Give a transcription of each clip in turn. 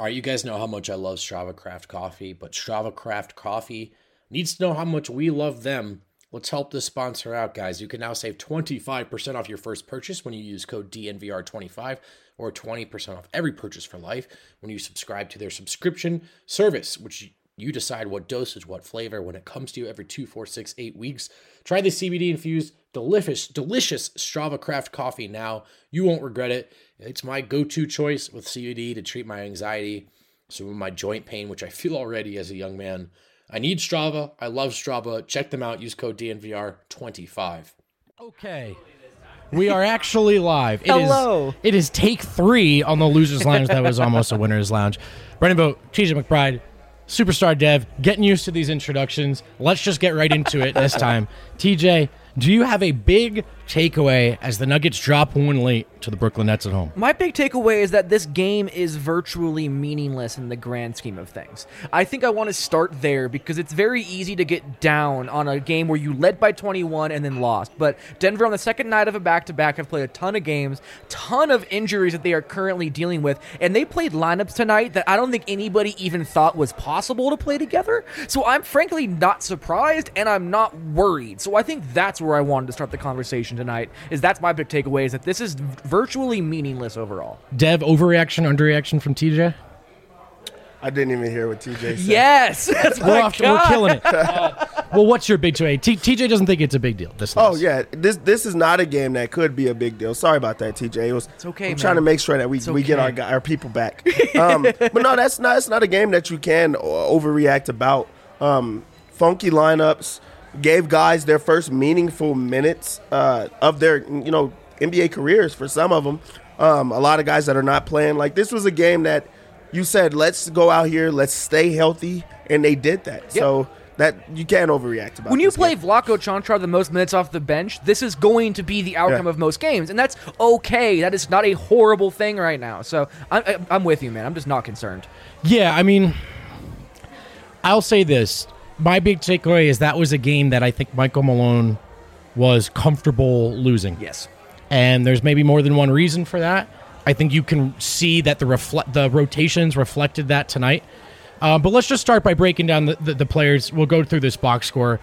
All right, you guys know how much I love Strava Craft Coffee, but Strava Craft Coffee needs to know how much we love them. Let's help this sponsor out, guys. You can now save 25% off your first purchase when you use code DNVR25 or 20% off every purchase for life when you subscribe to their subscription service, which you decide what dosage, what flavor when it comes to you every 2, 4, 6, 8 weeks. Try the CBD-infused, delicious Strava Craft Coffee now. You won't regret it. It's my go-to choice with CBD to treat my anxiety, some of my joint pain, which I feel already as a young man. I need Strava. I love Strava. Check them out. Use code DNVR25. Okay. We are actually live. Hello. It is take 3 on the Losers Lounge that was almost a Winner's Lounge. Brendan Vogt, TJ McBride, Superstar Dev, getting used to these introductions. Let's just get right into it this time. TJ, do you have a big takeaway as the Nuggets drop one late to the Brooklyn Nets at home? My big takeaway is that this game is virtually meaningless in the grand scheme of things. I think I want to start there because it's very easy to get down on a game where you led by 21 and then lost. But Denver on the second night of a back-to-back have played a ton of games, ton of injuries that they are currently dealing with, and they played lineups tonight that I don't think anybody even thought was possible to play together. So I'm frankly not surprised and I'm not worried. So I think that's where I wanted to start the conversation tonight, is that's my big takeaway, is that this is virtually meaningless overall. Dev, overreaction, underreaction from TJ? I didn't even hear what TJ said. Yes! That's We're killing it. Well, what's your big takeaway? TJ doesn't think it's a big deal. This loss. Oh, yeah. This is not a game that could be a big deal. Sorry about that, TJ. It's okay, I'm trying to make sure that we get our people back. But no, that's not a game that you can overreact about. Funky lineups gave guys their first meaningful minutes of their NBA careers for some of them. A lot of guys that are not playing. Like, this was a game that you said, let's go out here, let's stay healthy, and they did that. Yep. So that you can't overreact about. When you play Vlatko Čančar the most minutes off the bench, this is going to be the outcome of most games, and that's okay. That is not a horrible thing right now. So I'm with you, man. I'm just not concerned. Yeah, I mean, I'll say this. My big takeaway is that was a game that I think Michael Malone was comfortable losing. Yes. And there's maybe more than one reason for that. I think you can see that the rotations reflected that tonight. But let's just start by breaking down the players. We'll go through this box score.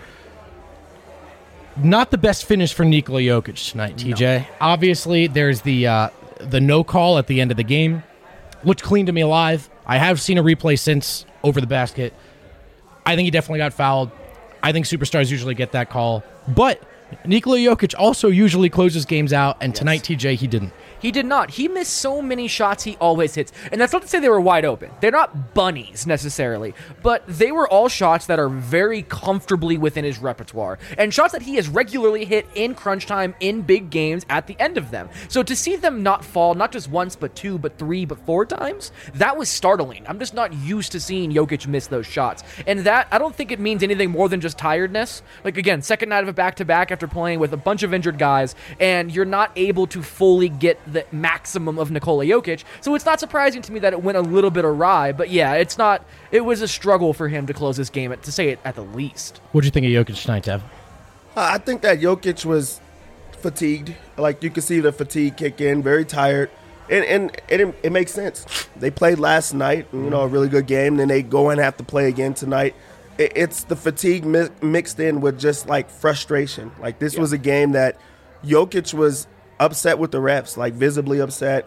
Not the best finish for Nikola Jokic tonight, TJ. No. Obviously, there's the no call at the end of the game. Looked clean to me alive. I have seen a replay since over the basket. I think he definitely got fouled. I think superstars usually get that call. But Nikola Jokic also usually closes games out, and tonight, TJ, he didn't. He did not. He missed so many shots he always hits. And that's not to say they were wide open. They're not bunnies, necessarily. But they were all shots that are very comfortably within his repertoire. And shots that he has regularly hit in crunch time, in big games, at the end of them. So to see them not fall, not just once, but 2, but 3, but 4 times, that was startling. I'm just not used to seeing Jokic miss those shots. And that, I don't think it means anything more than just tiredness. Like, again, second night of a back-to-back after playing with a bunch of injured guys, and you're not able to fully get the maximum of Nikola Jokic. So it's not surprising to me that it went a little bit awry, but yeah, it was a struggle for him to close this game, to say it at the least. What do you think of Jokic tonight, Dev? I think that Jokic was fatigued. Like, you could see the fatigue kick in, very tired. And it makes sense. They played last night, a really good game, then they go and have to play again tonight. It's the fatigue mixed in with just, like, frustration. Like, this was a game that Jokic was upset with the refs, like, visibly upset.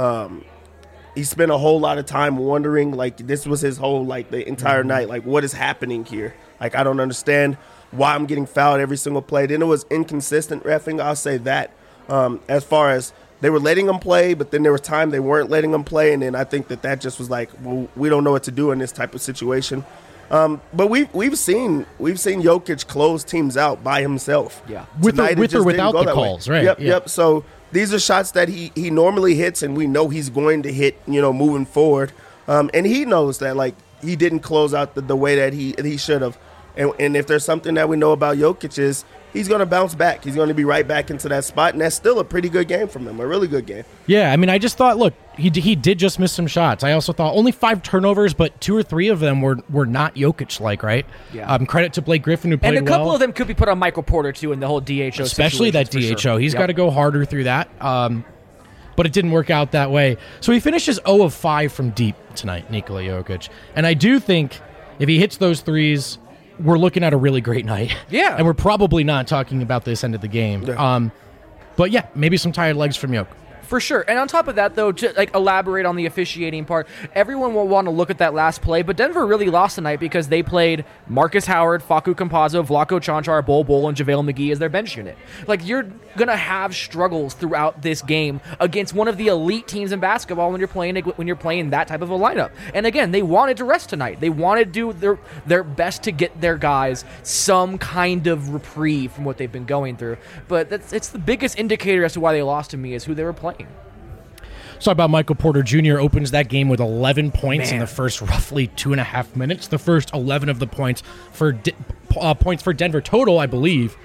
He spent a whole lot of time wondering, like, this was his whole, like, the entire night, like, what is happening here? Like, I don't understand why I'm getting fouled every single play. Then it was inconsistent reffing, I'll say that. As far as they were letting him play, but then there was time they weren't letting him play, and then I think that just was like, well, we don't know what to do in this type of situation. But we've seen Jokic close teams out by himself. Yeah, with or without the calls, right? Yep. So these are shots that he normally hits, and we know he's going to hit, moving forward. And he knows that, like, he didn't close out the way that he should have. And if there's something that we know about Jokic is he's going to bounce back. He's going to be right back into that spot, and that's still a pretty good game from him, a really good game. Yeah, I mean, I just thought, look, he did just miss some shots. I also thought only 5 turnovers, but 2 or 3 of them were not Jokic-like, right? Yeah. Credit to Blake Griffin, who played well. And a couple of them could be put on Michael Porter, too, in the whole DHO Especially that DHO. Sure. He's got to go harder through that. but it didn't work out that way. So he finishes 0 of 5 from deep tonight, Nikola Jokic. And I do think if he hits those threes, we're looking at a really great night. Yeah. And we're probably not talking about this end of the game. Yeah. But yeah, maybe some tired legs from Jokic. For sure. And on top of that, though, to elaborate on the officiating part, everyone will want to look at that last play, but Denver really lost tonight because they played Marcus Howard, Facu Campazzo, Vlatko Čančar, Bol, and JaVale McGee as their bench unit. You're going to have struggles throughout this game against one of the elite teams in basketball when you're playing that type of a lineup. And again, they wanted to rest tonight. They wanted to do their best to get their guys some kind of reprieve from what they've been going through. But it's the biggest indicator as to why they lost to me is who they were playing. Let's talk about Michael Porter Jr. Opens that game with 11 points in the first roughly 2.5 minutes. The first 11 of the points for Denver total, I believe.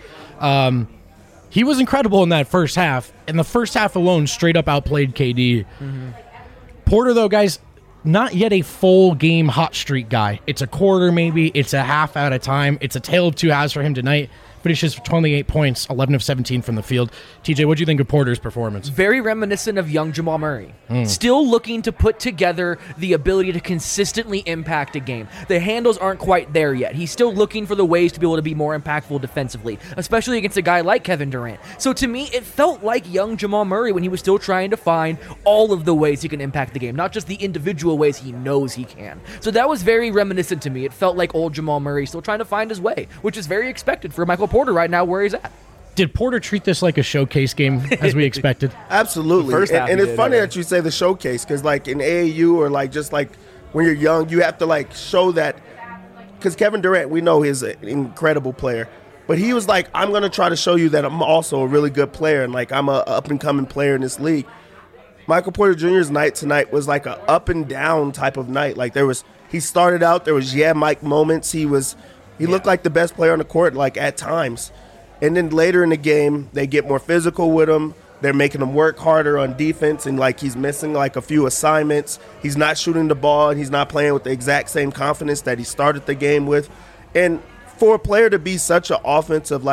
He was incredible in that first half. In the first half alone, straight up outplayed KD. Mm-hmm. Porter, though, guys, not yet a full game hot streak guy. It's a quarter maybe. It's a half at a time. It's a tale of two halves for him tonight. Finishes for 28 points, 11 of 17 from the field. TJ, what do you think of Porter's performance? Very reminiscent of young Jamal Murray. Still looking to put together the ability to consistently impact a game. The handles aren't quite there yet. He's still looking for the ways to be able to be more impactful defensively, especially against a guy like Kevin Durant. So to me, it felt like young Jamal Murray when he was still trying to find all of the ways he can impact the game, not just the individual ways he knows he can. So that was very reminiscent to me. It felt like old Jamal Murray still trying to find his way, which is very expected for Michael Porter right now where he's at. Did Porter treat this like a showcase game as we expected? Absolutely. And it's funny that you say the showcase because in AAU or just when you're young, you have to show that because Kevin Durant, we know he's an incredible player, but he was I'm going to try to show you that I'm also a really good player and I'm a up-and-coming player in this league. Michael Porter Jr.'s night tonight was like a up and down type of night. He started out, there was Mike moments. He looked like the best player on the court at times. And then later in the game, they get more physical with him. They're making him work harder on defense, and he's missing a few assignments. He's not shooting the ball, and he's not playing with the exact same confidence that he started the game with. And for a player to be such an offensive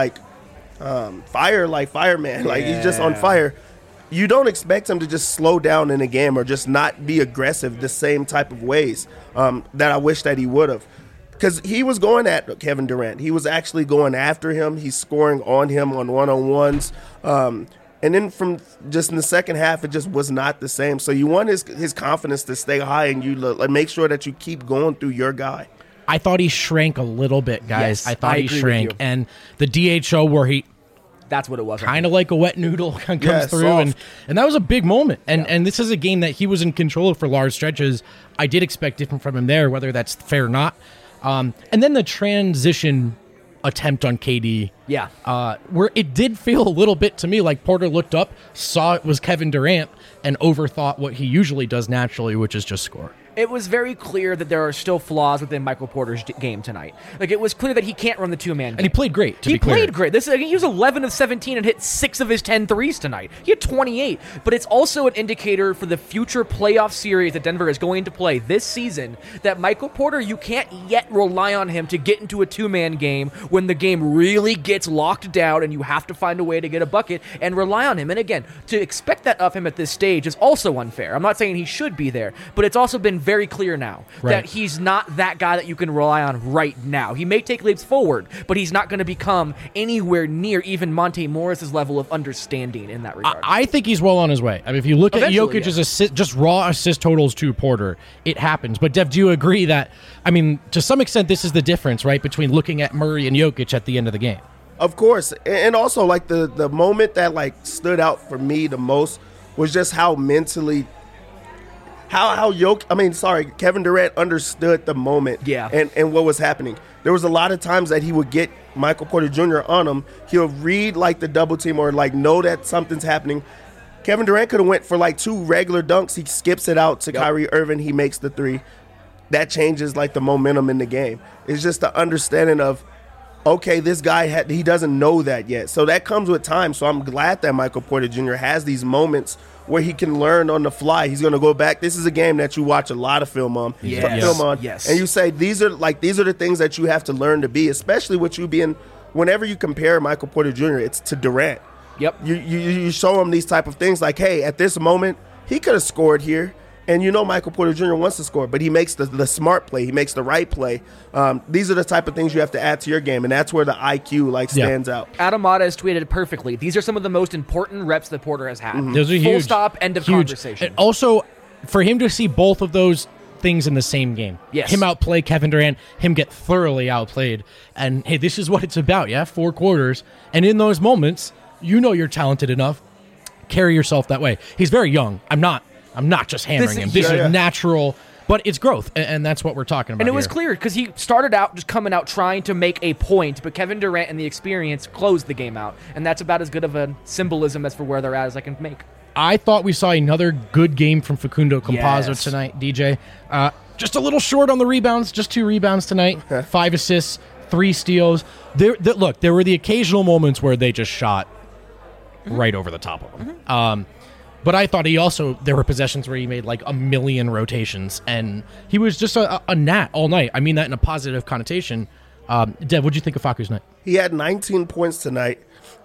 fireman, he's just on fire, you don't expect him to just slow down in a game or just not be aggressive the same type of ways that I wish that he would have. Because he was going at Kevin Durant. He was actually going after him. He's scoring on him on one-on-ones. And then from just in the second half, it just was not the same. So you want his confidence to stay high and you make sure that you keep going through your guy. I thought he shrank a little bit, guys. Yes, I thought I he agree shrank. with you. And the DHO where he That's what it was. kind of like a wet noodle comes through. Soft. And that was a big moment. And this is a game that he was in control of for large stretches. I did expect different from him there, whether that's fair or not. And then the transition attempt on KD. Yeah. Where it did feel a little bit to me like Porter looked up, saw it was Kevin Durant, and overthought what he usually does naturally, which is just score. It was very clear that there are still flaws within Michael Porter's game tonight. It was clear that he can't run the two-man game. And he played great, to He be clear. played great. He was 11 of 17 and hit 6 of his 10 threes tonight. He had 28. But it's also an indicator for the future playoff series that Denver is going to play this season that Michael Porter, you can't yet rely on him to get into a two-man game when the game really gets locked down and you have to find a way to get a bucket and rely on him. And again, to expect that of him at this stage is also unfair. I'm not saying he should be there, but it's also been very clear now that he's not that guy that you can rely on right now. He may take leaps forward, but he's not going to become anywhere near even Monte Morris's level of understanding in that regard. I think he's well on his way. I mean, if you look Eventually, at Jokic's just raw assist totals to Porter, it happens. But Dev, do you agree that, I mean, to some extent, this is the difference, right, between looking at Murray and Jokic at the end of the game? Of course. And also, the moment that, stood out for me the most was just how mentally Kevin Durant understood the moment and what was happening. There was a lot of times that he would get Michael Porter Jr. on him. He'll read the double team or know that something's happening. Kevin Durant could have went for 2 regular dunks. He skips it out to Kyrie Irving. He makes the 3. That changes the momentum in the game. It's just the understanding of, okay, this guy he doesn't know that yet. So that comes with time. So I'm glad that Michael Porter Jr. has these moments where he can learn on the fly. He's going to go back. This is a game that you watch a lot of film on. Yes. And you say these are the things that you have to learn to be, especially with you being, whenever you compare Michael Porter Jr., it's to Durant. Yep. You show him these type of things like, hey, at this moment, he could have scored here. And Michael Porter Jr. wants to score, but he makes the smart play. He makes the right play. These are the type of things you have to add to your game, and that's where the IQ stands out. Adam Mata has tweeted it perfectly. These are some of the most important reps that Porter has had. Those are huge. Full stop, end of Huge. conversation. And also, for him to see both of those things in the same game. Yes. Him outplay Kevin Durant, him get thoroughly outplayed. And, hey, this is what it's about, 4 quarters. And in those moments, you're talented enough. Carry yourself that way. He's very young. I'm not just hammering him. This is natural, but it's growth, and that's what we're talking about. And it was here. clear because he started out just coming out trying to make a point, but Kevin Durant and the experience closed the game out, and that's about as good of a symbolism as for where they're at as I can make. I thought we saw another good game from Facundo Campazzo Yes. tonight, DJ. Just a little short on the rebounds, just 2 rebounds tonight, 5 assists, 3 steals. Look, there were the occasional moments where they just shot right over the top of them. But I thought there were possessions where he made like a million rotations, and he was just a gnat all night. I mean that in a positive connotation. Dev, what'd you think of Facu's night? He had 19 points tonight.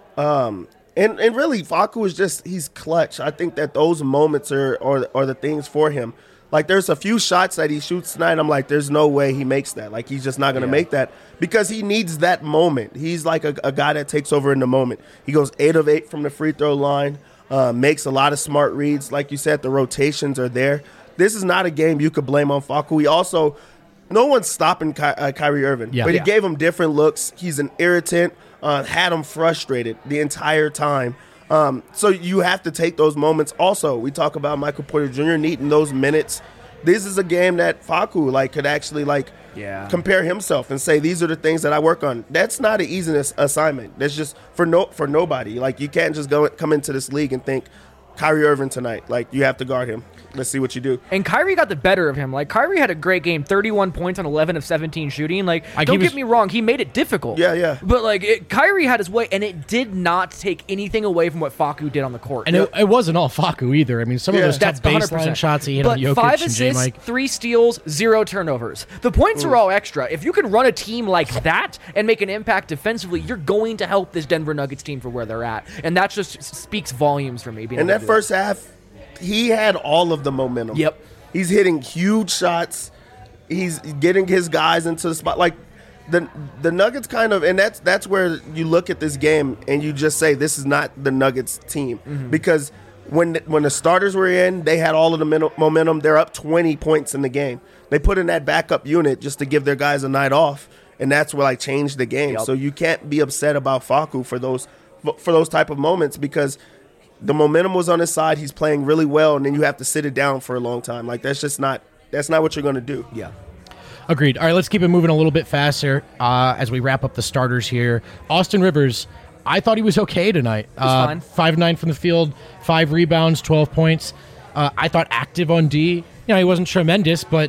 And really, Facu is he's clutch. I think that those moments are the things for him. Like, there's a few shots that he shoots tonight. I'm like, there's no way he makes that. Like, he's just not going to make that because he needs that moment. He's like a guy that takes over in the moment. He goes 8 of 8 from the free throw line. Makes a lot of smart reads. Like you said, the rotations are there. This is not a game you could blame on Facu. No one's stopping Kyrie Irving, but he gave him different looks. He's an irritant, had him frustrated the entire time. So you have to take those moments. Also, we talk about Michael Porter Jr. needing those minutes. This is a game that Facu could actually compare himself and say, these are the things that I work on. That's not an easy assignment. That's just for nobody. Like, you can't just come into this league and think Kyrie Irving tonight. Like, you have to guard him. Let's see what you do. And Kyrie got the better of him. Like, Kyrie had a great game, 31 points on 11 of 17 shooting. Like, don't get me wrong, he made it difficult. Yeah. But, Kyrie had his way, and it did not take anything away from what Facu did on the court. And it wasn't all Facu either. I mean, some of those tough baseline shots he hit on Jokic 5 and assists, J-Mike. 3 steals, 0 turnovers. The points are all extra. If you can run a team like that and make an impact defensively, you're going to help this Denver Nuggets team for where they're at. And that just speaks volumes for me. And that first half, he had all of the momentum. Yep. He's hitting huge shots. He's getting his guys into the spot. Like, the Nuggets kind of, and that's where you look at this game and you just say, this is not the Nuggets team. Because when the starters were in, they had all of the momentum. They're up 20 points in the game. They put in that backup unit just to give their guys a night off, and that's what changed the game. Yep. So you can't be upset about Facu for those type of moments because the momentum was on his side. He's playing really well, and then you have to sit it down for a long time. Like, that's not what you're going to do. Yeah. Agreed. All right, let's keep it moving a little bit faster as we wrap up the starters here. Austin Rivers, I thought he was okay tonight. Fine. 5-9 from the field, 5 rebounds, 12 points. I thought active on D. He wasn't tremendous, but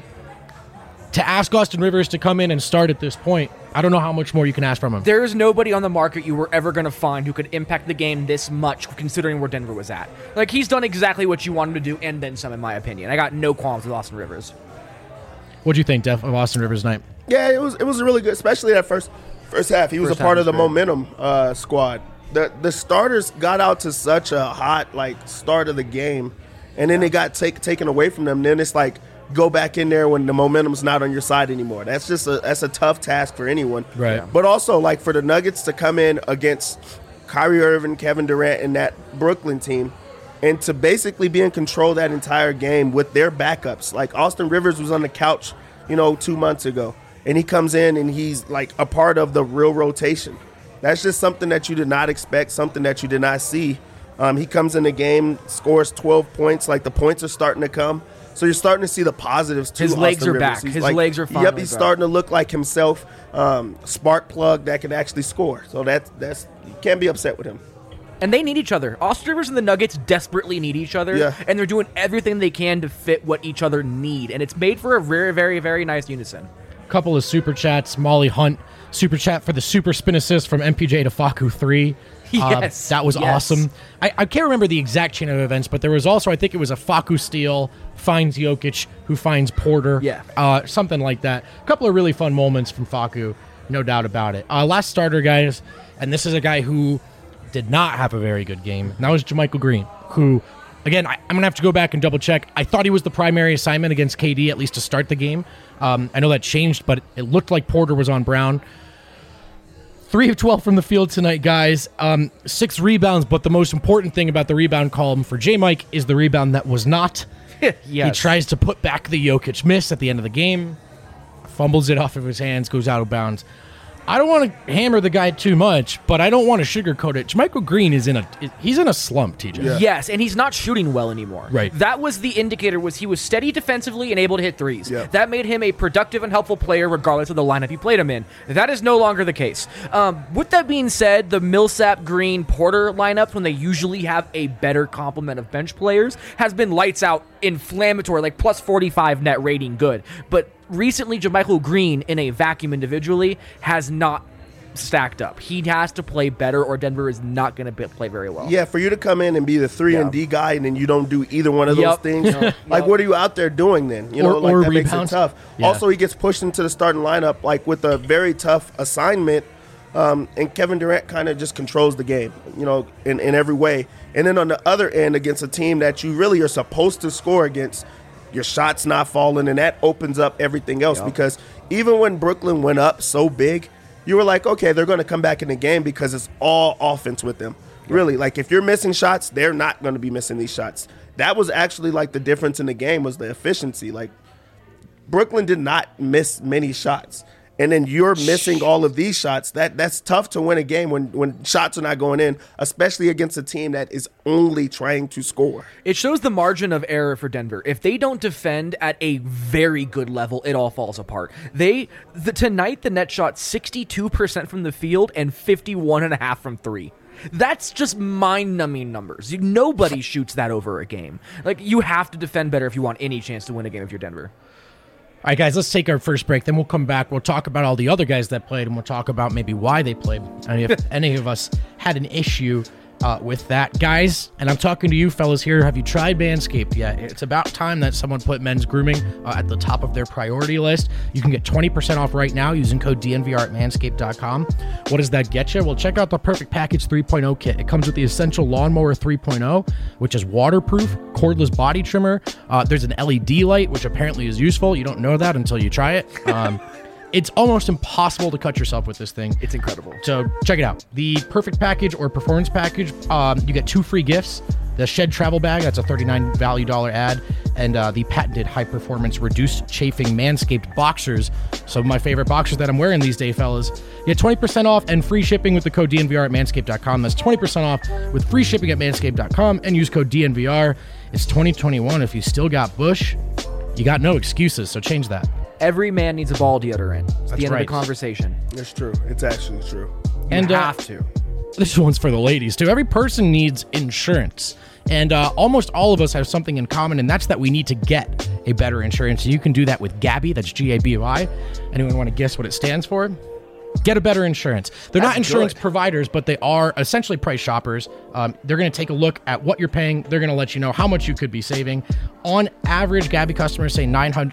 to ask Austin Rivers to come in and start at this point, I don't know how much more you can ask from him. There's nobody on the market you were ever going to find who could impact the game this much, considering where Denver was at. Like, he's done exactly what you want him to do, and then some, in my opinion. I got no qualms with Austin Rivers. What do you think, Def, of Austin Rivers' night? Yeah, it was really good, especially that first half. He was a part of the momentum squad. The starters got out to such a hot start of the game, and then they got taken away from them. Then it's like, go back in there when the momentum's not on your side anymore. That's a tough task for anyone. Right. But also, for the Nuggets to come in against Kyrie Irving, Kevin Durant, and that Brooklyn team, and to basically be in control that entire game with their backups. Like, Austin Rivers was on the couch, 2 months ago, and he comes in and he's a part of the real rotation. That's just something that you did not expect, something that you did not see. He comes in the game, scores 12 points. The points are starting to come. So you're starting to see the positives too. His legs Austin are Rivers. back. He's His legs are finally Yep, he's back. starting to look like himself. Spark plug that can actually score. So that's you can't be upset with him. And they need each other. Austin Rivers and the Nuggets desperately need each other, Yeah. and they're doing everything they can to fit what each other need. And it's made for a very, very, very nice unison. Couple of super chats. Molly Hunt, super chat for the super spin assist from MPJ to Facu 3. Yes. That was Yes. awesome. I can't remember the exact chain of events, but there was also, I think it was a Facu steal, finds Jokic, who finds Porter. Yeah. Something like that. A couple of really fun moments from Facu, no doubt about it. Last starter, guys, and this is a guy who did not have a very good game, and that was JaMychal Green, who, again, I'm going to have to go back and double check. I thought he was the primary assignment against KD, at least to start the game. I know that changed, but it looked like Porter was on Brown. 3 of 12 from the field tonight, guys. 6 rebounds, but the most important thing about the rebound column for J-Mike is the rebound that was not. Yes. He tries to put back the Jokic miss at the end of the game, fumbles it off of his hands, goes out of bounds. I don't want to hammer the guy too much, but I don't want to sugarcoat it. JaMychal Green is in a slump, TJ. Yeah. Yes, and he's not shooting well anymore. Right. That was the indicator, was he was steady defensively and able to hit threes. Yeah. That made him a productive and helpful player regardless of the lineup you played him in. That is no longer the case. With that being said, the Millsap, Green, Porter lineups, when they usually have a better complement of bench players, has been lights out, inflammatory, like plus 45 net rating good. But recently, JaMychal Green in a vacuum individually has not stacked up. He has to play better, or Denver is not going to play very well. Yeah, for you to come in and be the 3-and-D guy, and then you don't do either one of those things, like what are you out there doing then? You know, Or like that makes it rebounds. tough. Yeah. Also, he gets pushed into the starting lineup like with a very tough assignment, and Kevin Durant kind of just controls the game, you know, in every way. And then on the other end, against a team that you really are supposed to score against, your shot's not falling, and that opens up everything else. Because even when Brooklyn went up so big, you were like, okay, they're going to come back in the game because it's all offense with them. Really, like if you're missing shots, they're not going to be missing these shots. That was actually like the difference in the game was the efficiency. Like Brooklyn did not miss many shots. And then you're missing all of these shots. That's tough to win a game when shots are not going in, especially against a team that is only trying to score. It shows the margin of error for Denver. If they don't defend at a very good level, it all falls apart. Tonight, the net shot 62% from the field and 51.5% from 3. That's just mind-numbing numbers. Nobody shoots that over a game. Like, you have to defend better if you want any chance to win a game if you're Denver. All right, guys, let's take our first break. Then we'll come back. We'll talk about all the other guys that played, and we'll talk about maybe why they played, and if any of us had an issue with that. Guys, and I'm talking to you fellas here, have you tried Manscaped yet? It's about time that someone put men's grooming at the top of their priority list. You can get 20% off right now using code DNVR at manscaped.com. What does that get you? Well, check out the Perfect Package 3.0 kit. It comes with the Essential Lawnmower 3.0, which is waterproof, cordless body trimmer. There's an LED light, which apparently is useful. You don't know that until you try it. It's almost impossible to cut yourself with this thing. It's incredible. So check it out. The Perfect Package or Performance Package, you get 2 free gifts. The Shed Travel Bag, that's a $39 value ad, and the patented high-performance reduced chafing Manscaped boxers. Some of my favorite boxers that I'm wearing these days, fellas. You get 20% off and free shipping with the code DNVR at manscaped.com. That's 20% off with free shipping at manscaped.com and use code DNVR. It's 2021. If you still got bush, you got no excuses, so change that. Every man needs a ball deodorant. It's the end of right. the conversation. It's true. It's actually true. And You have to. This one's for the ladies, too. Every person needs insurance. And almost all of us have something in common, and that's that we need to get a better insurance. And you can do that with Gabi. That's G-A-B-Y. Anyone want to guess what it stands for? Get a better insurance. They're not insurance providers, but they are essentially price shoppers. They're going to take a look at what you're paying. They're going to let you know how much you could be saving. On average, Gabi customers say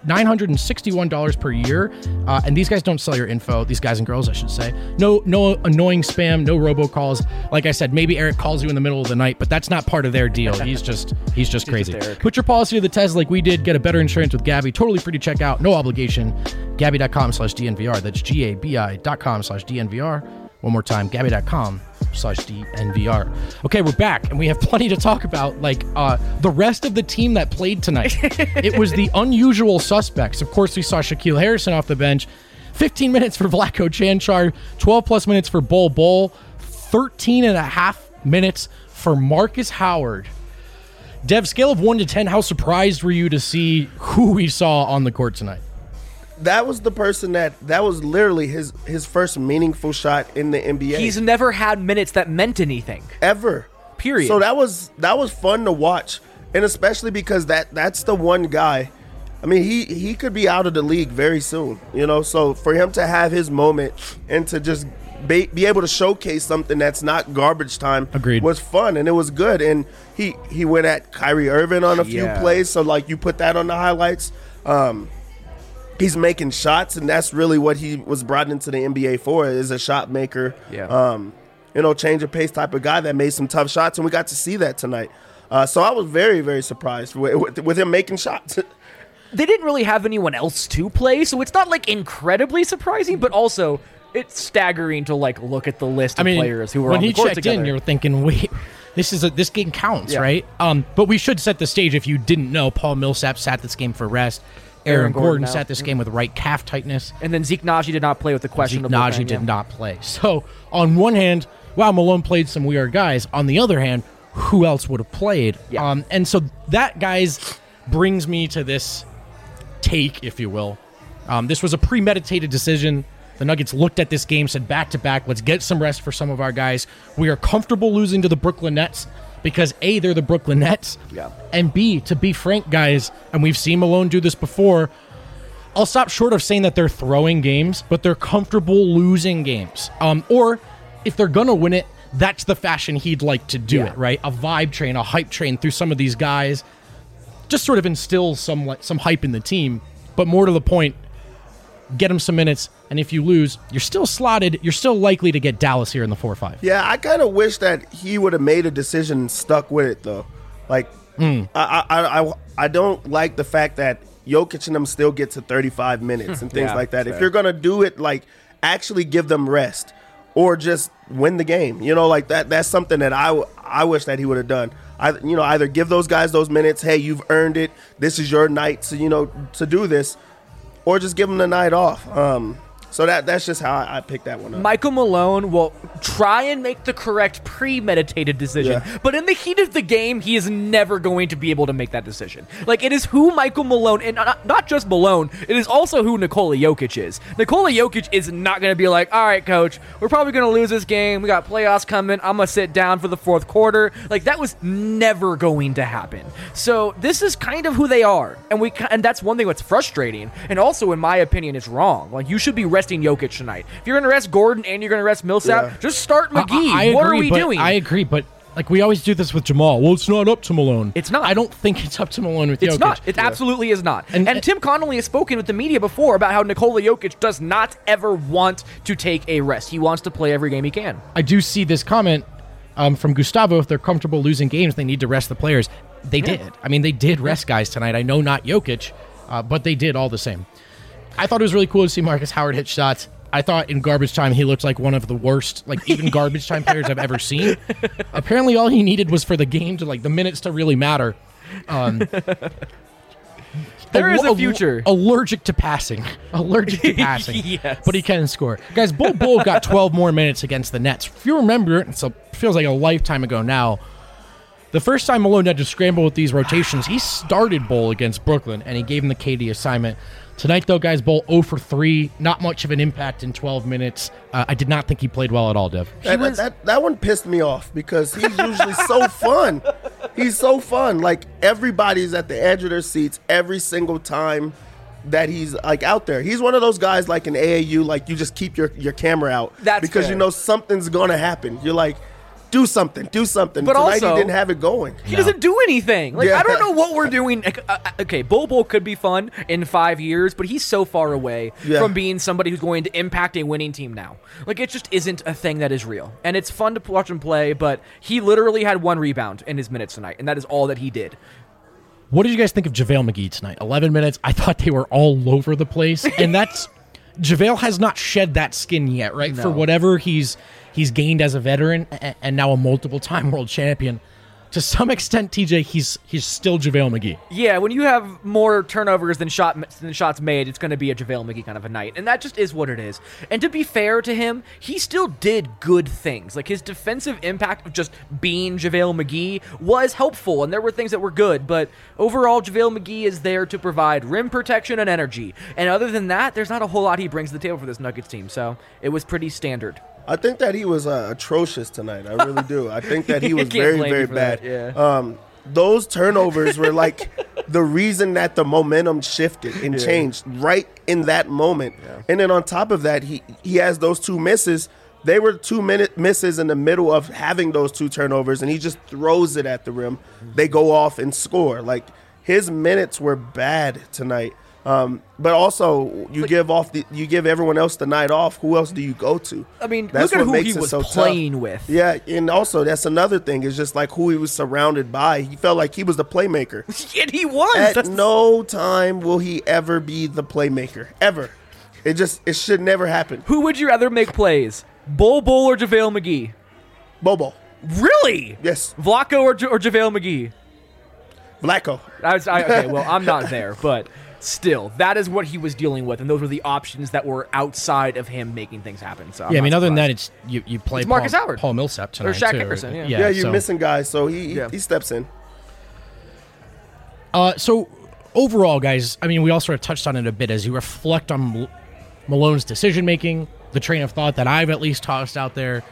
$961 per year. And these guys don't sell your info. These guys and girls, I should say. No annoying spam, no robocalls. Like I said, maybe Eric calls you in the middle of the night, but that's not part of their deal. He's just crazy. Eric. Put your policy to the test like we did. Get a better insurance with Gabi. Totally free to check out. No obligation. Gabi.com/DNVR. That's GABI.com/DNVR. One more time, Gabi.com/DNVR. Okay, we're back, and we have plenty to talk about, like the rest of the team that played tonight. It was the unusual suspects. Of course, we saw Shaquille Harrison off the bench. 15 minutes for Vlatko Cancar, 12-plus minutes for Bol Bol, 13.5 minutes for Marcus Howard. Dev, scale of 1 to 10, how surprised were you to see who we saw on the court tonight? That was the person that was literally his first meaningful shot in the NBA. He's never had minutes that meant anything. Ever. Period. So that was fun to watch, and especially because that's the one guy. I mean, he could be out of the league very soon, you know. So for him to have his moment and to just be able to showcase something that's not garbage time Agreed. was fun, and it was good. And he went at Kyrie Irving on a few plays, so like you put that on the highlights. He's making shots, and that's really what he was brought into the NBA for, is a shot maker. Yeah. change of pace type of guy that made some tough shots, and we got to see that tonight. So I was very, very surprised with him making shots. They didn't really have anyone else to play, so it's not like incredibly surprising, but also it's staggering to like look at the list of players who were on the court together. When he checked in, you're thinking, wait, this game counts, right? But we should set the stage. If you didn't know, Paul Millsap sat this game for rest. Aaron Gordon sat this game with right calf tightness. And then Zeke Naji did not play with the questionable Zeke Naji did not play. So on one hand, wow, Malone played some weird guys. On the other hand, who else would have played? Yeah. And so that, guys, brings me to this take, if you will. This was a premeditated decision. The Nuggets looked at this game, said back-to-back, let's get some rest for some of our guys. We are comfortable losing to the Brooklyn Nets because, A, they're the Brooklyn Nets, and B, to be frank, guys, and we've seen Malone do this before, I'll stop short of saying that they're throwing games, but they're comfortable losing games. Or if they're going to win it, that's the fashion he'd like to do it, right? A vibe train, a hype train through some of these guys. Just sort of instill some hype in the team, but more to the point, get them some minutes, and if you lose, you're still slotted. You're still likely to get Dallas here in the 4-5. Yeah, I kind of wish that he would have made a decision and stuck with it, though. Like, I don't like the fact that Jokic and them still get to 35 minutes and things like that. If you're going to do it, like, actually give them rest or just win the game. Like that's something that I wish that he would have done. Either give those guys those minutes, hey, you've earned it, this is your night to do this, or just give them the night off. So that's just how I picked that one up. Michael Malone will try and make the correct premeditated decision, but in the heat of the game, he is never going to be able to make that decision. Like, it is who Michael Malone, and not just Malone, it is also who Nikola Jokic is. Nikola Jokic is not going to be like, all right, coach, we're probably going to lose this game. We got playoffs coming. I'm going to sit down for the fourth quarter. Like, that was never going to happen. So this is kind of who they are, and that's one thing that's frustrating, and also, in my opinion, it's wrong. Like, you should be resting Jokic tonight. If you're going to rest Gordon and you're going to rest Millsap, just start McGee. What are we doing? I agree, but like we always do this with Jamal. Well, it's not up to Malone. It's not. I don't think it's up to Malone with Jokic. It's not. It absolutely is not. And Tim Connolly has spoken with the media before about how Nikola Jokic does not ever want to take a rest. He wants to play every game he can. I do see this comment from Gustavo. If they're comfortable losing games, they need to rest the players. They did. I mean, they did rest guys tonight. I know not Jokic, but they did all the same. I thought it was really cool to see Marcus Howard hit shots. I thought in garbage time he looked like one of the worst, like even garbage time players I've ever seen. Apparently all he needed was for the game to, like, the minutes to really matter. There is a future. Allergic to passing. Yes. But he can score. Guys, Bull got 12 more minutes against the Nets. If you remember, it feels like a lifetime ago now, the first time Malone had to scramble with these rotations, he started Bull against Brooklyn, and he gave him the KD assignment. Tonight, though, guys, Bull 0 for 3. Not much of an impact in 12 minutes. I did not think he played well at all, Dev. That one pissed me off because he's usually so fun. He's so fun. Like, everybody's at the edge of their seats every single time that he's, like, out there. He's one of those guys, like in AAU, like, you just keep your camera out. That's because fair. You know something's going to happen. You're like, do something. But tonight also, he didn't have it going. He doesn't do anything. Like, I don't know what we're doing. Okay, Bull could be fun in 5 years, but he's so far away from being somebody who's going to impact a winning team now. Like, it just isn't a thing that is real. And it's fun to watch him play, but he literally had 1 rebound in his minutes tonight, and that is all that he did. What did you guys think of JaVale McGee tonight? 11 minutes. I thought they were all over the place, and that's JaVale has not shed that skin yet, right? No. For whatever he's gained as a veteran and now a multiple-time world champion. To some extent, TJ, he's still JaVale McGee. Yeah, when you have more turnovers than shots made, it's going to be a JaVale McGee kind of a night. And that just is what it is. And to be fair to him, he still did good things. Like, his defensive impact of just being JaVale McGee was helpful, and there were things that were good. But overall, JaVale McGee is there to provide rim protection and energy. And other than that, there's not a whole lot he brings to the table for this Nuggets team. So it was pretty standard. I think that he was atrocious tonight. I really do. I think that he was very, very bad. That, those turnovers were like the reason that the momentum shifted and changed right in that moment. Yeah. And then on top of that, he has those 2 misses. They were 2-minute misses in the middle of having those 2 turnovers, and he just throws it at the rim. They go off and score. Like, his minutes were bad tonight. But also, you give everyone else the night off. Who else do you go to? I mean, That's look at what who makes he it was so playing tough. with. Yeah, and also that's another thing. Is just like who he was surrounded by. He felt like he was the playmaker. And he was. At no time will he ever be the playmaker. Ever. It should never happen. Who would you rather make plays? Bol or JaVale McGee? Bobo. Really? Yes. Vlaco or JaVale McGee? Vlaco. Okay, well, I'm not there, but still, that is what he was dealing with, and those were the options that were outside of him making things happen. So I mean, other than that, it's you play It's Marcus Howard. Paul Millsap tonight, Or Shaq too. Dickerson, yeah. Yeah, you're so- missing guys, so he steps in. So overall, guys, I mean, we all sort of touched on it a bit as you reflect on Malone's decision making, the train of thought that I've at least tossed out there.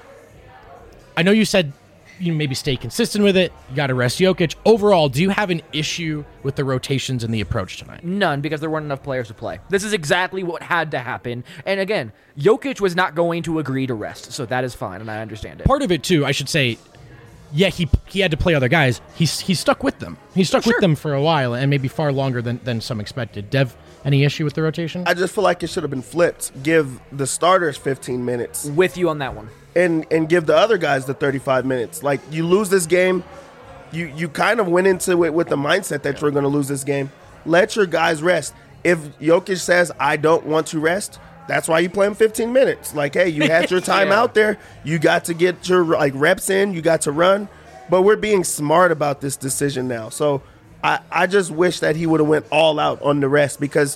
I know you said you maybe stay consistent with it. You got to rest Jokic. Overall, do you have an issue with the rotations and the approach tonight? None, because there weren't enough players to play. This is exactly what had to happen. And again, Jokic was not going to agree to rest, so that is fine, and I understand it. Part of it too, I should say, yeah, he had to play other guys. He stuck with them. He stuck with them for a while, and maybe far longer than some expected. Dev, any issue with the rotation? I just feel like it should have been flipped. Give the starters 15 minutes With you on that one. and give the other guys the 35 minutes. Like, you lose this game, you kind of went into it with the mindset that you're going to lose this game. Let your guys rest. If Jokic says, I don't want to rest, that's why you play him 15 minutes. Like, hey, you had your time Yeah. out there. You got to get your reps in. You got to run. But we're being smart about this decision now. So I just wish that he would have went all out on the rest, because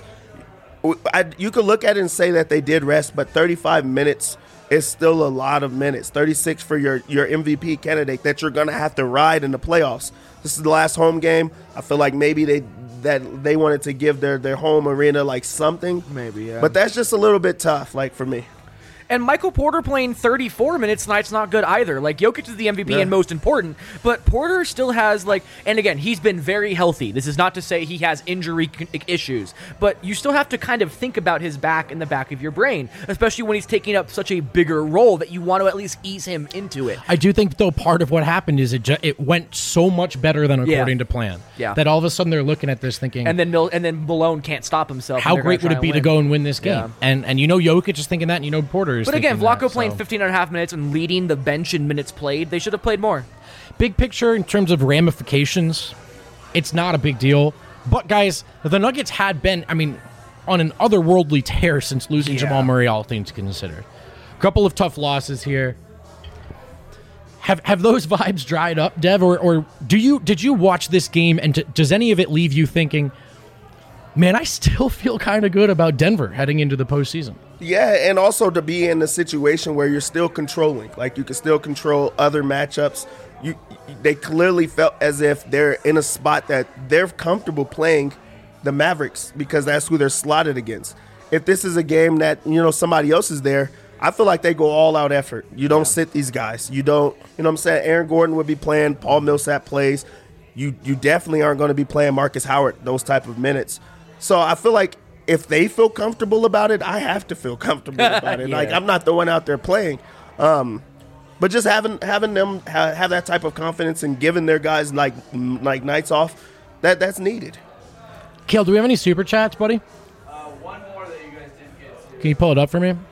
you could look at it and say that they did rest, but 35 minutes is still a lot of minutes. 36 for your MVP candidate that you're going to have to ride in the playoffs. This is the last home game. I feel like maybe they wanted to give their home arena like something. Maybe, yeah. But that's just a little bit tough, like, for me. And Michael Porter playing 34 minutes tonight's not good either. Like, Jokic is the MVP and most important, but Porter still has, like, and again, he's been very healthy. This is not to say he has injury issues, but you still have to kind of think about his back in the back of your brain, especially when he's taking up such a bigger role that you want to at least ease him into it. I do think, though, part of what happened is it went so much better than according to plan. Yeah. That all of a sudden they're looking at this thinking, And then Malone can't stop himself. how great would it be to go and win this game? Yeah. And you know Jokic is thinking that, and you know Porter is But again, thinking Vlaco that, playing so. 15 and a half minutes and leading the bench in minutes played, they should have played more. Big picture in terms of ramifications, it's not a big deal. But guys, the Nuggets had been, I mean, on an otherworldly tear since losing Jamal Murray, all things considered. A couple of tough losses here. Have those vibes dried up, Dev, or did you watch this game and does any of it leave you thinking, man, I still feel kind of good about Denver heading into the postseason? Yeah, and also to be in a situation where you're still controlling. Like, you can still control other matchups. They clearly felt as if they're in a spot that they're comfortable playing the Mavericks because that's who they're slotted against. If this is a game that, somebody else is there, I feel like they go all out effort. You don't sit these guys. You don't, what I'm saying? Aaron Gordon would be playing, Paul Millsap plays. You definitely aren't going to be playing Marcus Howard those type of minutes. So I feel like if they feel comfortable about it, I have to feel comfortable about it. Yeah. Like, I'm not the one out there playing. But just having them have that type of confidence and giving their guys like nights off, that's needed. Kale, do we have any super chats, buddy? One more that you guys didn't get to. Can you pull it up for me?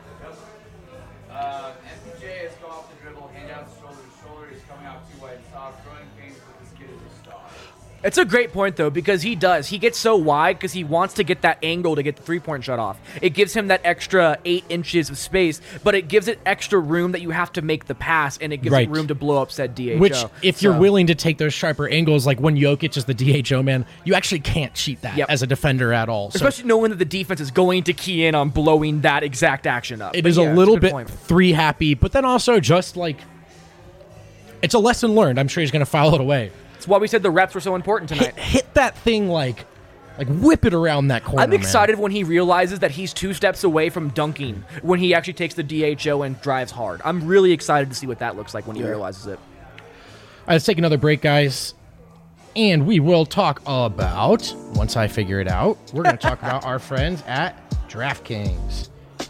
MPJ has come off the dribble, hand out shoulder to shoulder. He's coming out too wide and soft. Growing pains, but this kid is a star. It's a great point, though, because he does. He gets so wide because he wants to get that angle to get the three-point shot off. It gives him that extra 8 inches of space, but it gives it extra room that you have to make the pass, and it gives Right. it room to blow up said DHO. Which, if you're So- willing to take those sharper angles, like when Jokic is the DHO man, you actually can't cheat that Yep. as a defender at all. So Especially knowing that the defense is going to key in on blowing that exact action up. it But is yeah, a it's little good bit point. three happy, but then also just like it's a lesson learned. I'm sure he's going to file it away. It's why we said the reps were so important tonight. Hit that thing like whip it around that corner. I'm excited when he realizes that he's 2 steps away from dunking when he actually takes the DHO and drives hard. I'm really excited to see what that looks like when he realizes it. All right, let's take another break, guys. And we will talk about, once I figure it out, we're going to talk about our friends at DraftKings.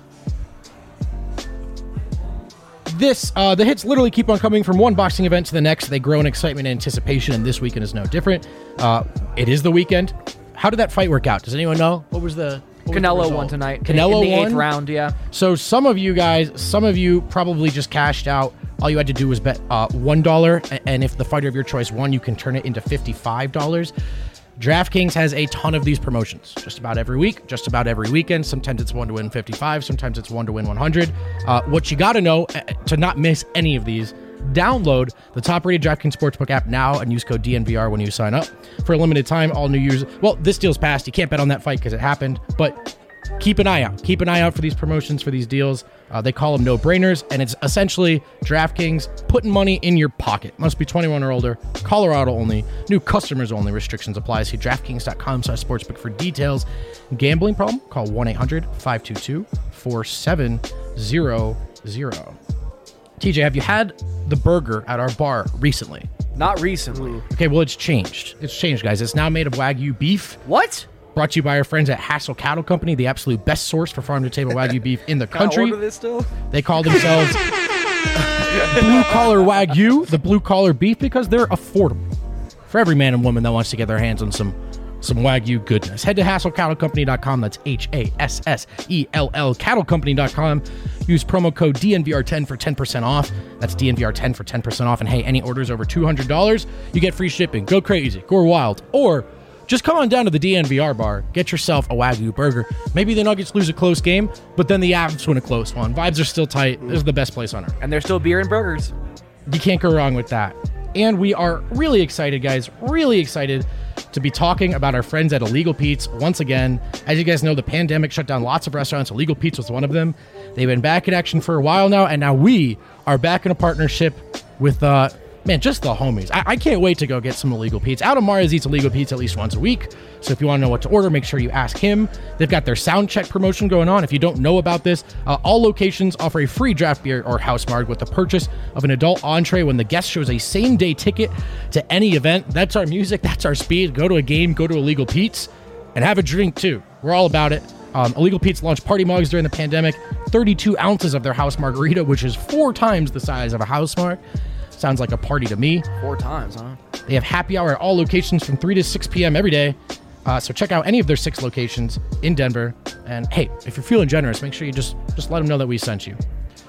The hits literally keep on coming from one boxing event to the next. They grow in excitement and anticipation, and this weekend is no different. It is the weekend. How did that fight work out? Does anyone know? What was the Canelo result? won tonight. Canelo in the 8th won? round, yeah. So some of you probably just cashed out. All you had to do was bet $1, and if the fighter of your choice won, you can turn it into $55. DraftKings has a ton of these promotions just about every week, just about every weekend. Sometimes it's 1 to win 55, sometimes it's 1 to win 100. What you got to know to not miss any of these, download the top-rated DraftKings Sportsbook app now and use code DNVR when you sign up. For a limited time, all new users... Well, this deal's passed. You can't bet on that fight because it happened, but keep an eye out. Keep an eye out for these promotions, for these deals. They call them no-brainers, and it's essentially DraftKings putting money in your pocket. Must be 21 or older. Colorado only. New customers only. Restrictions apply. See DraftKings.com/sportsbook for details. Gambling problem? Call 1-800-522-4700. TJ, have you had the burger at our bar recently? Not recently. Okay, well, it's changed. It's changed, guys. It's now made of Wagyu beef. What? Brought to you by our friends at Hassel Cattle Company, the absolute best source for farm-to-table Wagyu beef in the Can I country. order this still? They call themselves blue-collar Wagyu, the blue-collar beef, because they're affordable for every man and woman that wants to get their hands on some Wagyu goodness. Head to HassellCattleCompany.com. That's HASSELL CattleCompany.com. Use promo code DNVR10 for 10% off. That's DNVR10 for 10% off. And hey, any orders over $200, you get free shipping. Go crazy. Go wild. Or just come on down to the DNVR bar. Get yourself a Wagyu burger. Maybe the Nuggets lose a close game, but then the Avs win a close one. Vibes are still tight. This is the best place on earth. And there's still beer and burgers. You can't go wrong with that. And we are really excited, guys. Really excited to be talking about our friends at Illegal Pete's once again. As you guys know, the pandemic shut down lots of restaurants. Illegal Pete's was one of them. They've been back in action for a while now, and now we are back in a partnership with, just the homies. I can't wait to go get some Illegal Pete's. Adam Mars eats Illegal Pete's at least once a week, so if you want to know what to order, make sure you ask him. They've got their sound check promotion going on. If you don't know about this, all locations offer a free draft beer or house marg with the purchase of an adult entree when the guest shows a same-day ticket to any event. That's our music. That's our speed. Go to a game. Go to Illegal Pete's and have a drink, too. We're all about it. Illegal Pete's launched party mugs during the pandemic. 32 ounces of their house margarita, which is 4 times the size of a house marg. Sounds like a party to me. 4 times, huh? They have happy hour at all locations from 3 to 6 p.m. every day. So check out any of their 6 locations in Denver. And hey, if you're feeling generous, make sure you just let them know that we sent you.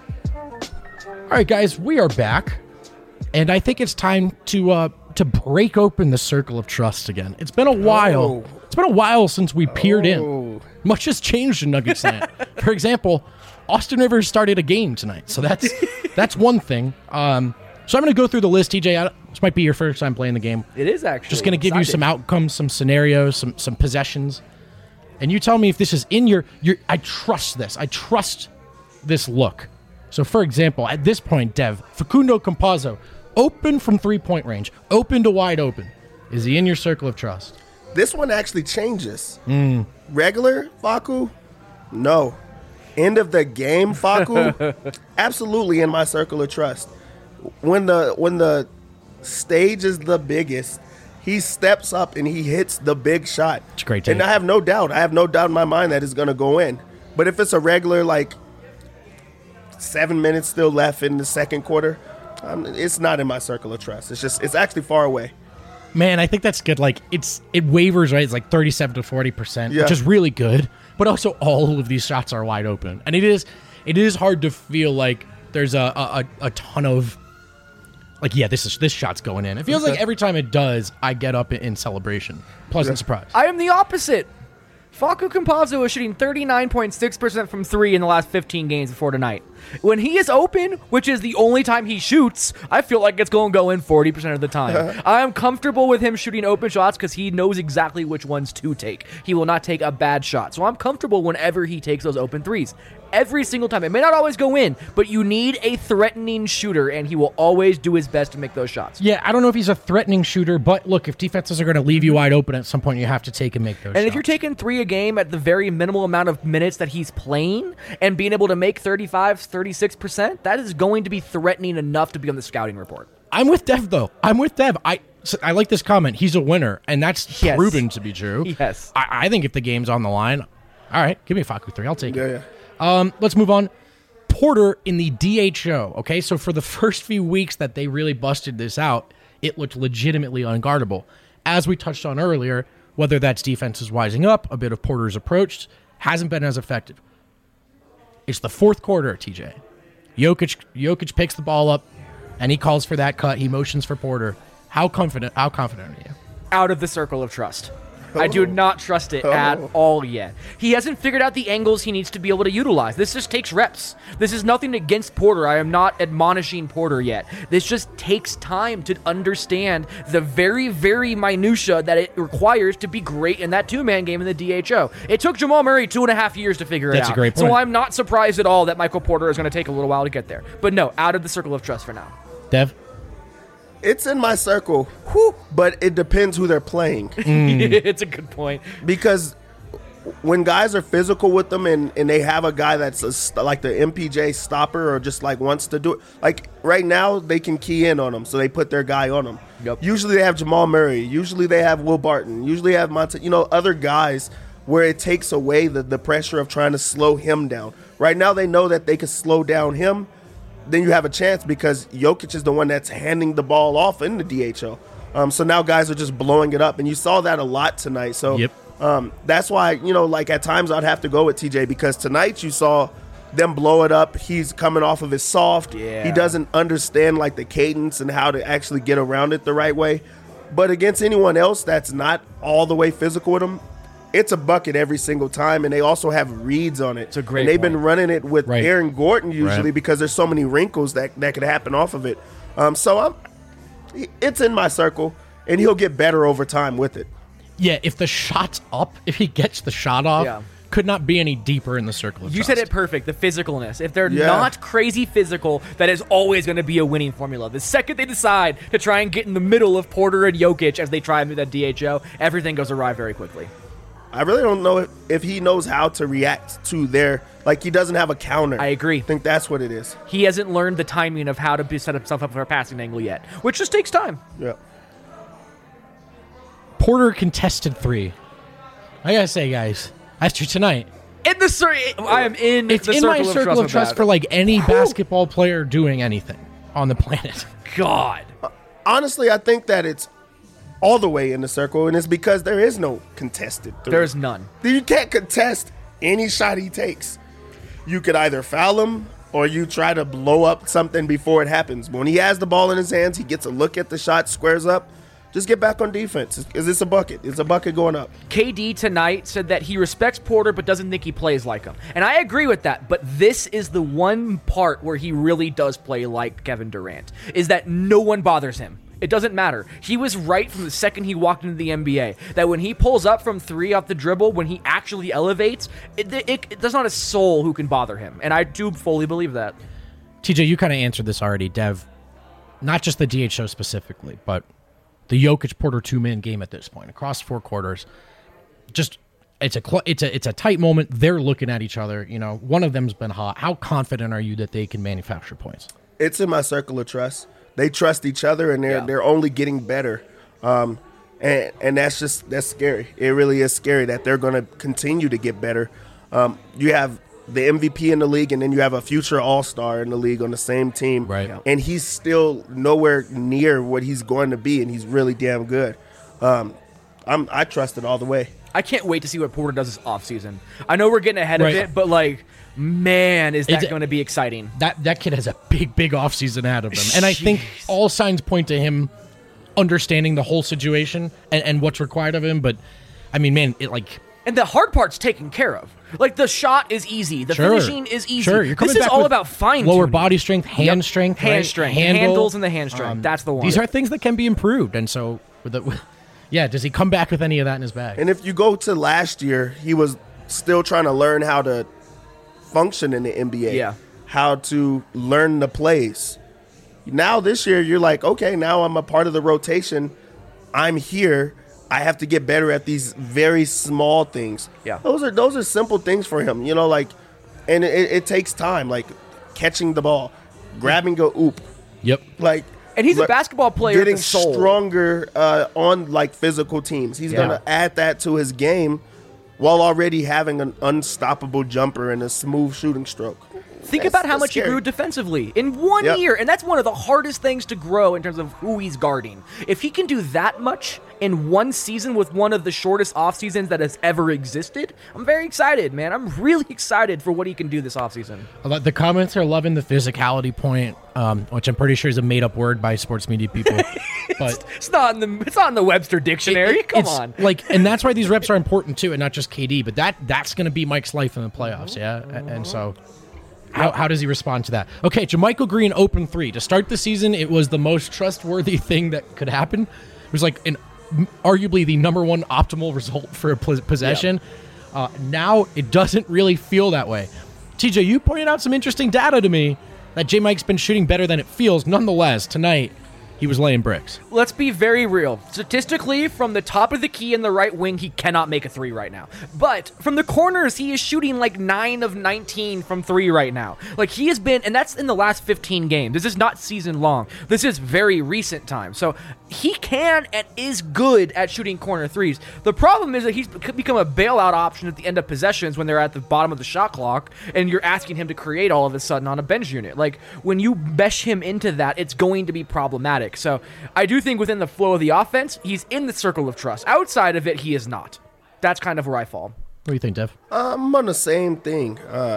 All right, guys, we are back. And I think it's time to break open the circle of trust again. It's been a while. It's been a while since we peered in. Much has changed in Nuggets land. For example, Austin Rivers started a game tonight. So that's one thing. So I'm going to go through the list, TJ. This might be your first time playing the game. It is actually. Just going to give you some outcomes, some scenarios, some possessions. And you tell me if this is in your I trust this. I trust this look. So, for example, at this point, Dev, Facundo Campazzo, open from 3-point range, open to wide open. Is he in your circle of trust? This one actually changes. Regular Facu? No. End of the game Facu? Absolutely in my circle of trust. When the stage is the biggest, he steps up and he hits the big shot. It's a great take. And I have no doubt in my mind that it's going to go in. But if it's a regular, 7 minutes still left in the second quarter, it's not in my circle of trust. It's actually far away. Man, I think that's good. It wavers, right? It's 37 to 40%, Yeah. which is really good. But also all of these shots are wide open. And it is hard to feel like there's a ton of this shot's going in. It feels like every time it does, I get up in celebration. Pleasant surprise. I am the opposite. Facu Campazzo is shooting 39.6% from 3 in the last 15 games before tonight. When he is open, which is the only time he shoots, I feel like it's going to go in 40% of the time. I'm comfortable with him shooting open shots because he knows exactly which ones to take. He will not take a bad shot. So I'm comfortable whenever he takes those open threes. Every single time. It may not always go in, but you need a threatening shooter, and he will always do his best to make those shots. Yeah, I don't know if he's a threatening shooter, but look, if defenses are going to leave you wide open at some point, you have to take and make those shots. And if you're taking 3 a game at the very minimal amount of minutes that he's playing and being able to make 35, 36%, that is going to be threatening enough to be on the scouting report. I'm with Dev, though. I'm with Dev. I like this comment. He's a winner, and that's Yes. proven to be true. Yes. I think if the game's on the line, all right, give me a Facu 3. I'll take it. Yeah. Let's move on. Porter in the DHO. Okay, so for the first few weeks that they really busted this out, it looked legitimately unguardable. As we touched on earlier, whether that's defenses wising up, a bit of Porter's approach, hasn't been as effective. It's the fourth quarter, TJ. Jokic picks the ball up, and he calls for that cut. He motions for Porter. How confident are you? Out of the circle of trust. I do not trust it at all yet. He hasn't figured out the angles he needs to be able to utilize. This just takes reps. This is nothing against Porter. I am not admonishing Porter yet. This just takes time to understand the very, very minutia that it requires to be great in that two-man game in the DHO. It took Jamal Murray 2.5 years to figure it out. That's a great point. So I'm not surprised at all that Michael Porter is going to take a little while to get there. But no, out of the circle of trust for now. Dev? It's in my circle, but it depends who they're playing. It's a good point. Because when guys are physical with them and they have a guy that's like the MPJ stopper or just like wants to do it, like right now they can key in on them, so they put their guy on them. Yep. Usually they have Jamal Murray. Usually they have Will Barton. Usually they have other guys where it takes away the pressure of trying to slow him down. Right now they know that they can slow down him. Then you have a chance because Jokic is the one that's handing the ball off in the DHO. So now guys are just blowing it up, and you saw that a lot tonight. So that's why, like at times I'd have to go with TJ because tonight you saw them blow it up. He's coming off of his soft. Yeah. He doesn't understand like the cadence and how to actually get around it the right way. But against anyone else that's not all the way physical with him, it's a bucket every single time, and they also have reads on it. It's a great And they've point. been running it with Right. Aaron Gordon usually Right. because there's so many wrinkles that could happen off of it. It's in my circle, and he'll get better over time with it. Yeah, if the shot's up, if he gets the shot off, Yeah. could not be any deeper in the circle of You trust. said it perfect, the physicalness. If they're Yeah. not crazy physical, that is always going to be a winning formula. The second they decide to try and get in the middle of Porter and Jokic as they try and do that DHO, everything goes awry very quickly. I really don't know if he knows how to react to he doesn't have a counter. I agree. I think that's what it is. He hasn't learned the timing of how to set himself up for a passing angle yet, which just takes time. Yeah. Porter contested 3. I gotta say, guys, after tonight, I am in it's the in circle my circle of with trust that. for like any basketball player doing anything on the planet. God. Honestly, I think that it's all the way in the circle, and it's because there is no contested three. There's none. You can't contest any shot he takes. You could either foul him or you try to blow up something before it happens. When he has the ball in his hands, he gets a look at the shot, squares up. Just get back on defense. It's a bucket. It's a bucket going up. KD tonight said that he respects Porter but doesn't think he plays like him. And I agree with that, but this is the one part where he really does play like Kevin Durant, is that no one bothers him. It doesn't matter. He was right from the second he walked into the NBA that when he pulls up from 3 off the dribble, when he actually elevates, there's not a soul who can bother him. And I do fully believe that. TJ, you kind of answered this already, Dev. Not just the DHO specifically, but the Jokic Porter 2-man game at this point across 4 quarters. Just it's a tight moment. They're looking at each other. One of them's been hot. How confident are you that they can manufacture points? It's in my circle of trust. They trust each other, and they're only getting better. And that's scary. It really is scary that they're going to continue to get better. You have the MVP in the league, and then you have a future all-star in the league on the same team. Right. And he's still nowhere near what he's going to be, and he's really damn good. I trust it all the way. I can't wait to see what Porter does this offseason. I know we're getting ahead Right. of it, but man, is that It's- going to be exciting. That kid has a big offseason ahead of him. And I think all signs point to him understanding the whole situation and what's required of him. But, I mean, man, And the hard part's taken care of. The shot is easy. The finishing is easy. Sure, you're coming This is back all with about fine lower body strength, hand strength, Hand right? strength. Handle. Handles and the hand strength. That's the one. These are things that can be improved. And so, does he come back with any of that in his bag? And if you go to last year, he was still trying to learn how to function in the NBA. Yeah. How to learn the plays. Now this year, you're like, okay, now I'm a part of the rotation. I'm here. I have to get better at these very small things. Yeah. Those are simple things for him, and it takes time, like catching the ball, grabbing a oop, Yep. And he's a basketball player at getting the soul. stronger on physical teams. He's Yeah. going to add that to his game while already having an unstoppable jumper and a smooth shooting stroke. Think about how much he grew defensively in 1 year, and that's one of the hardest things to grow in terms of who he's guarding. If he can do that much in one season with one of the shortest off seasons that has ever existed, I'm very excited, man. I'm really excited for what he can do this offseason. The comments are loving the physicality point, which I'm pretty sure is a made-up word by sports media people. But it's not in the Webster dictionary. Come on, and that's why these reps are important too, and not just KD. But that's going to be Mike's life in the playoffs, yeah. And so, how does he respond to that? Okay, JaMychal Green open 3 to start the season. It was the most trustworthy thing that could happen. It was like arguably the number one optimal result for a possession. Yeah. Now it doesn't really feel that way. TJ, you pointed out some interesting data to me that J-Mike's been shooting better than it feels. Nonetheless, tonight he was laying bricks. Let's be very real. Statistically, from the top of the key in the right wing, he cannot make a 3 right now. But from the corners, he is shooting like 9 of 19 from 3 right now. Like he has been, and that's in the last 15 games. This is not season long. This is very recent time. So he can and is good at shooting corner 3s. The problem is that he's become a bailout option at the end of possessions when they're at the bottom of the shot clock, and you're asking him to create all of a sudden on a bench unit. Like when you mesh him into that, it's going to be problematic. So I do think within the flow of the offense, he's in the circle of trust. Outside of it, he is not. That's kind of where I fall. What do you think, Dev? I'm on the same thing.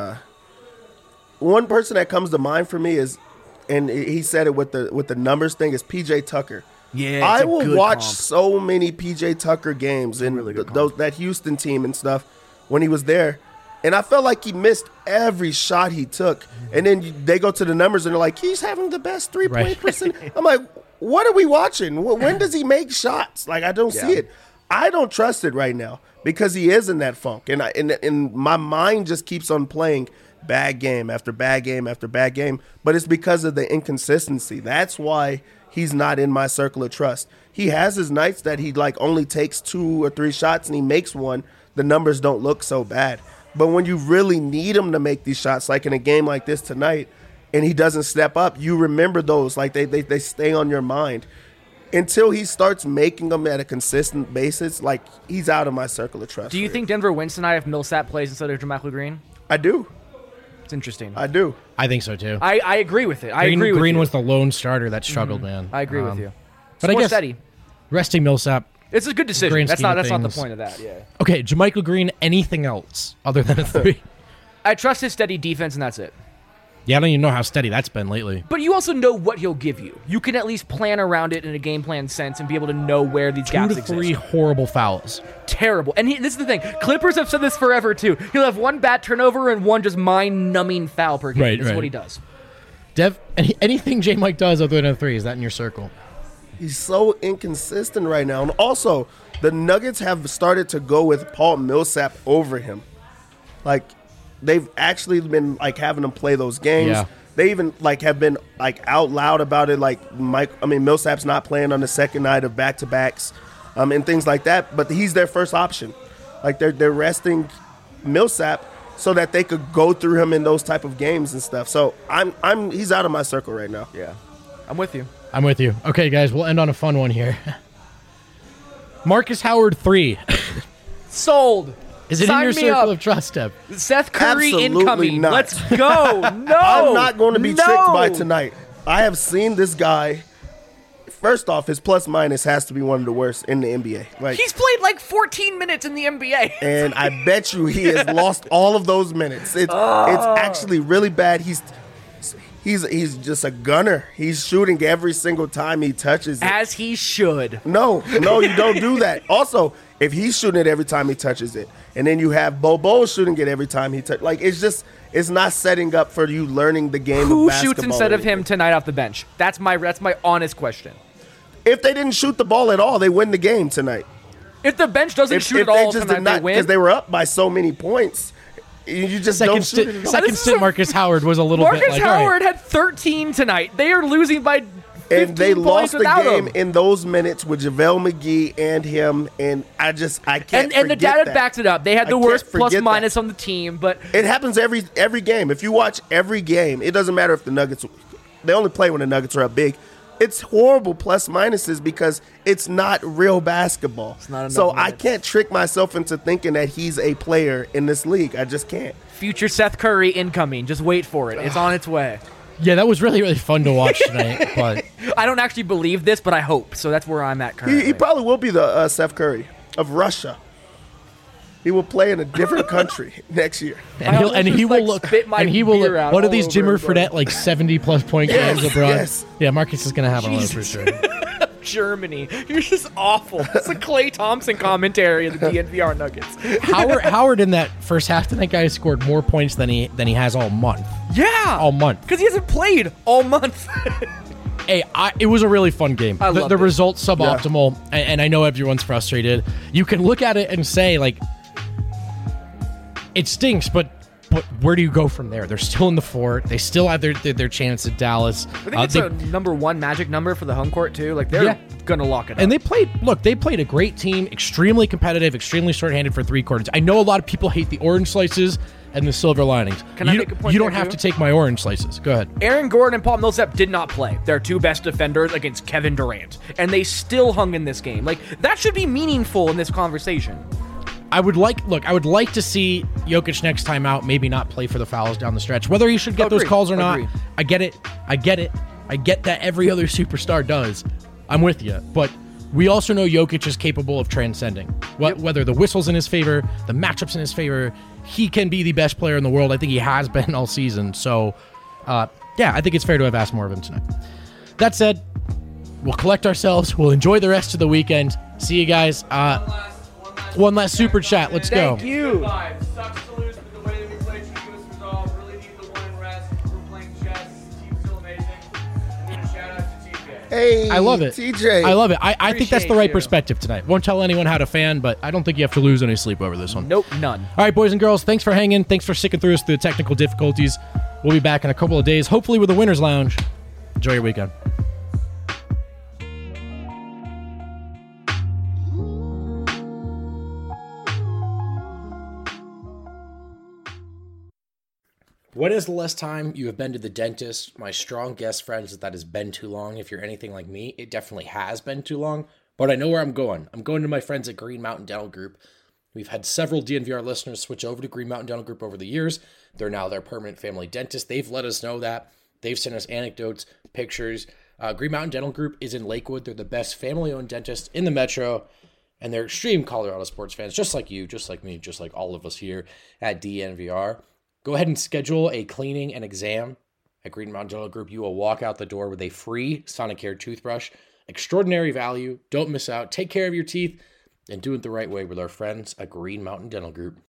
One person that comes to mind for me is, and he said it with the numbers thing, is PJ Tucker. Yeah, I will watch so many PJ Tucker games and really that Houston team and stuff when he was there. And I felt like he missed every shot he took. And then they go to the numbers and they're like, he's having the best 3-point percent. I'm like, what are we watching? When does he make shots? Like, I don't see it. I don't trust it right now because he is in that funk. And my mind just keeps on playing bad game after bad game after bad game. But it's because of the inconsistency. That's why he's not in my circle of trust. He has his nights that he like only takes 2 or 3 shots and he makes one. The numbers don't look so bad. But when you really need him to make these shots, like in a game like this tonight, and he doesn't step up, you remember those. Like they stay on your mind. Until he starts making them at a consistent basis, like he's out of my circle of trust. Do you think Denver wins tonight if Millsap plays instead of JaMychal Green? I do. It's interesting. I do. I think so too. I agree with it. I agree with Green you. was the lone starter that struggled, man. I agree with you. But I guess steady. Resting Millsap. It's a good decision. Grand That's scheme not of the things. point of that. Yeah. Okay, JaMychal Green. Anything else other than a 3? I trust his steady defense, and that's it. Yeah, I don't even know how steady that's been lately. But you also know what he'll give you. You can at least plan around it in a game plan sense and be able to know where these gaps 2 to 3 exist. horrible fouls. Terrible. And this is the thing. Clippers have said this forever, too. He'll have 1 bad turnover and 1 just mind-numbing foul per game. Right, That's right. what he does. Dev, anything J-Mike does other than a 3, is that in your circle? He's so inconsistent right now. And also, the Nuggets have started to go with Paul Millsap over him. Like, they've actually been, like, having him play those games. Yeah. They even, like, have been, like, out loud about it. Like, Millsap's not playing on the second night of back-to-backs and things like that. But he's their first option. Like, they're resting Millsap so that they could go through him in those type of games and stuff. So, he's out of my circle right now. Yeah. I'm with you. I'm with you. Okay, guys, we'll end on a fun one here. Marcus Howard 3. Sold. Is it Sign in your me circle up. of trust, Dev? Seth Curry Absolutely incoming. not. Let's go. No. I'm not going to be No. tricked by tonight. I have seen this guy. First off, his plus minus has to be one of the worst in the NBA. Like, He's played like 14 minutes in the NBA. and I bet you he has lost all of those minutes. It's actually really bad. He's just a gunner. He's shooting every single time he touches it. As he should. No, you don't do that. Also, if he's shooting it every time he touches it, and then you have Bobo shooting it every time he touches, like it's not setting up for you learning the game. Who of basketball shoots instead or of him anything. tonight off the bench? That's my honest question. If they didn't shoot the ball at all, they win the game tonight. If the bench doesn't shoot at they all just tonight, did not, they win. because they were up by so many points. You just don't shoot it at all. Second This is stint a- Marcus Howard was a little Marcus bit like, all right. Howard had 13 tonight. They are losing by 15 And they points lost the without game him. in those minutes with JaVale McGee and him, and I can't And the forget data that. backs it up. They had I the can't worst plus forget minus that. on the team, but It happens every game. If you watch every game, it doesn't matter if the Nuggets. They only play when the Nuggets are up big. it's horrible plus minuses because it's not real basketball. It's not enough so I minutes. can't trick myself into thinking that he's a player in this league. I just can't. Future Seth Curry incoming. Just wait for it. It's on its way. Yeah, that was really, really fun to watch tonight. But I don't actually believe this, but I hope. So that's where I'm at currently. He probably will be the Steph Curry of Russia. He will play in a different country next year. and he will look spit my and he will beer look. out What are all these over Jimmer everybody. Fredette like 70+ point Yes, games abroad? yes. Yeah, Marcus is gonna have one of those for sure. Germany. You're just awful. It's a Klay Thompson commentary of the DNVR Nuggets. Howard in that first half tonight, guy scored more points than he has all month. Yeah. All month. Because he hasn't played all month. Hey, it was a really fun game. I The loved it. results suboptimal, and I know everyone's frustrated. You can look at it and say like, it stinks, but where do you go from there? They're still in the fort. They still have their chance at Dallas. I think it's a number one magic number for the home court too. Like they're Yeah. gonna lock it up. And they played a great team, extremely competitive, extremely short-handed for 3 quarters. I know a lot of people hate the orange slices and the silver linings. Can I make a point You don't there, have too? to take my orange slices. Go ahead. Aaron Gordon and Paul Millsap did not play. Their 2 best defenders against Kevin Durant, and they still hung in this game. Like that should be meaningful in this conversation. I would like to see Jokic next time out maybe not play for the fouls down the stretch. Whether he should get those Agreed. calls or not, Agreed. I get it. I get that every other superstar does. I'm with you. But we also know Jokic is capable of transcending. Whether the whistle's in his favor, the matchup's in his favor, he can be the best player in the world. I think he has been all season. So, yeah, I think it's fair to have asked more of him tonight. That said, we'll collect ourselves. We'll enjoy the rest of the weekend. See you guys. One last super chat. Let's go. Thank you. Five. Sucks to lose, but the way that we played should give us resolve. Really need the one in rest. We're playing chess. Team's still amazing. And then a shout out to TJ. Hey, I love it. TJ. I love it. I think that's the Appreciate right you. perspective tonight. Won't tell anyone how to fan, but I don't think you have to lose any sleep over this one. Nope, none. All right, boys and girls, thanks for hanging. Thanks for sticking through us through the technical difficulties. We'll be back in a couple of days, hopefully with a winner's lounge. Enjoy your weekend. When is the last time you have been to the dentist? My strong guess, friends, is that has been too long. If you're anything like me, it definitely has been too long. But I know where I'm going. I'm going to my friends at Green Mountain Dental Group. We've had several DNVR listeners switch over to Green Mountain Dental Group over the years. They're now their permanent family dentist. They've let us know that. They've sent us anecdotes, pictures. Green Mountain Dental Group is in Lakewood. They're the best family-owned dentist in the metro. And they're extreme Colorado sports fans, just like you, just like me, just like all of us here at DNVR. Go ahead and schedule a cleaning and exam at Green Mountain Dental Group. You will walk out the door with a free Sonicare toothbrush. Extraordinary value. Don't miss out. Take care of your teeth and do it the right way with our friends at Green Mountain Dental Group.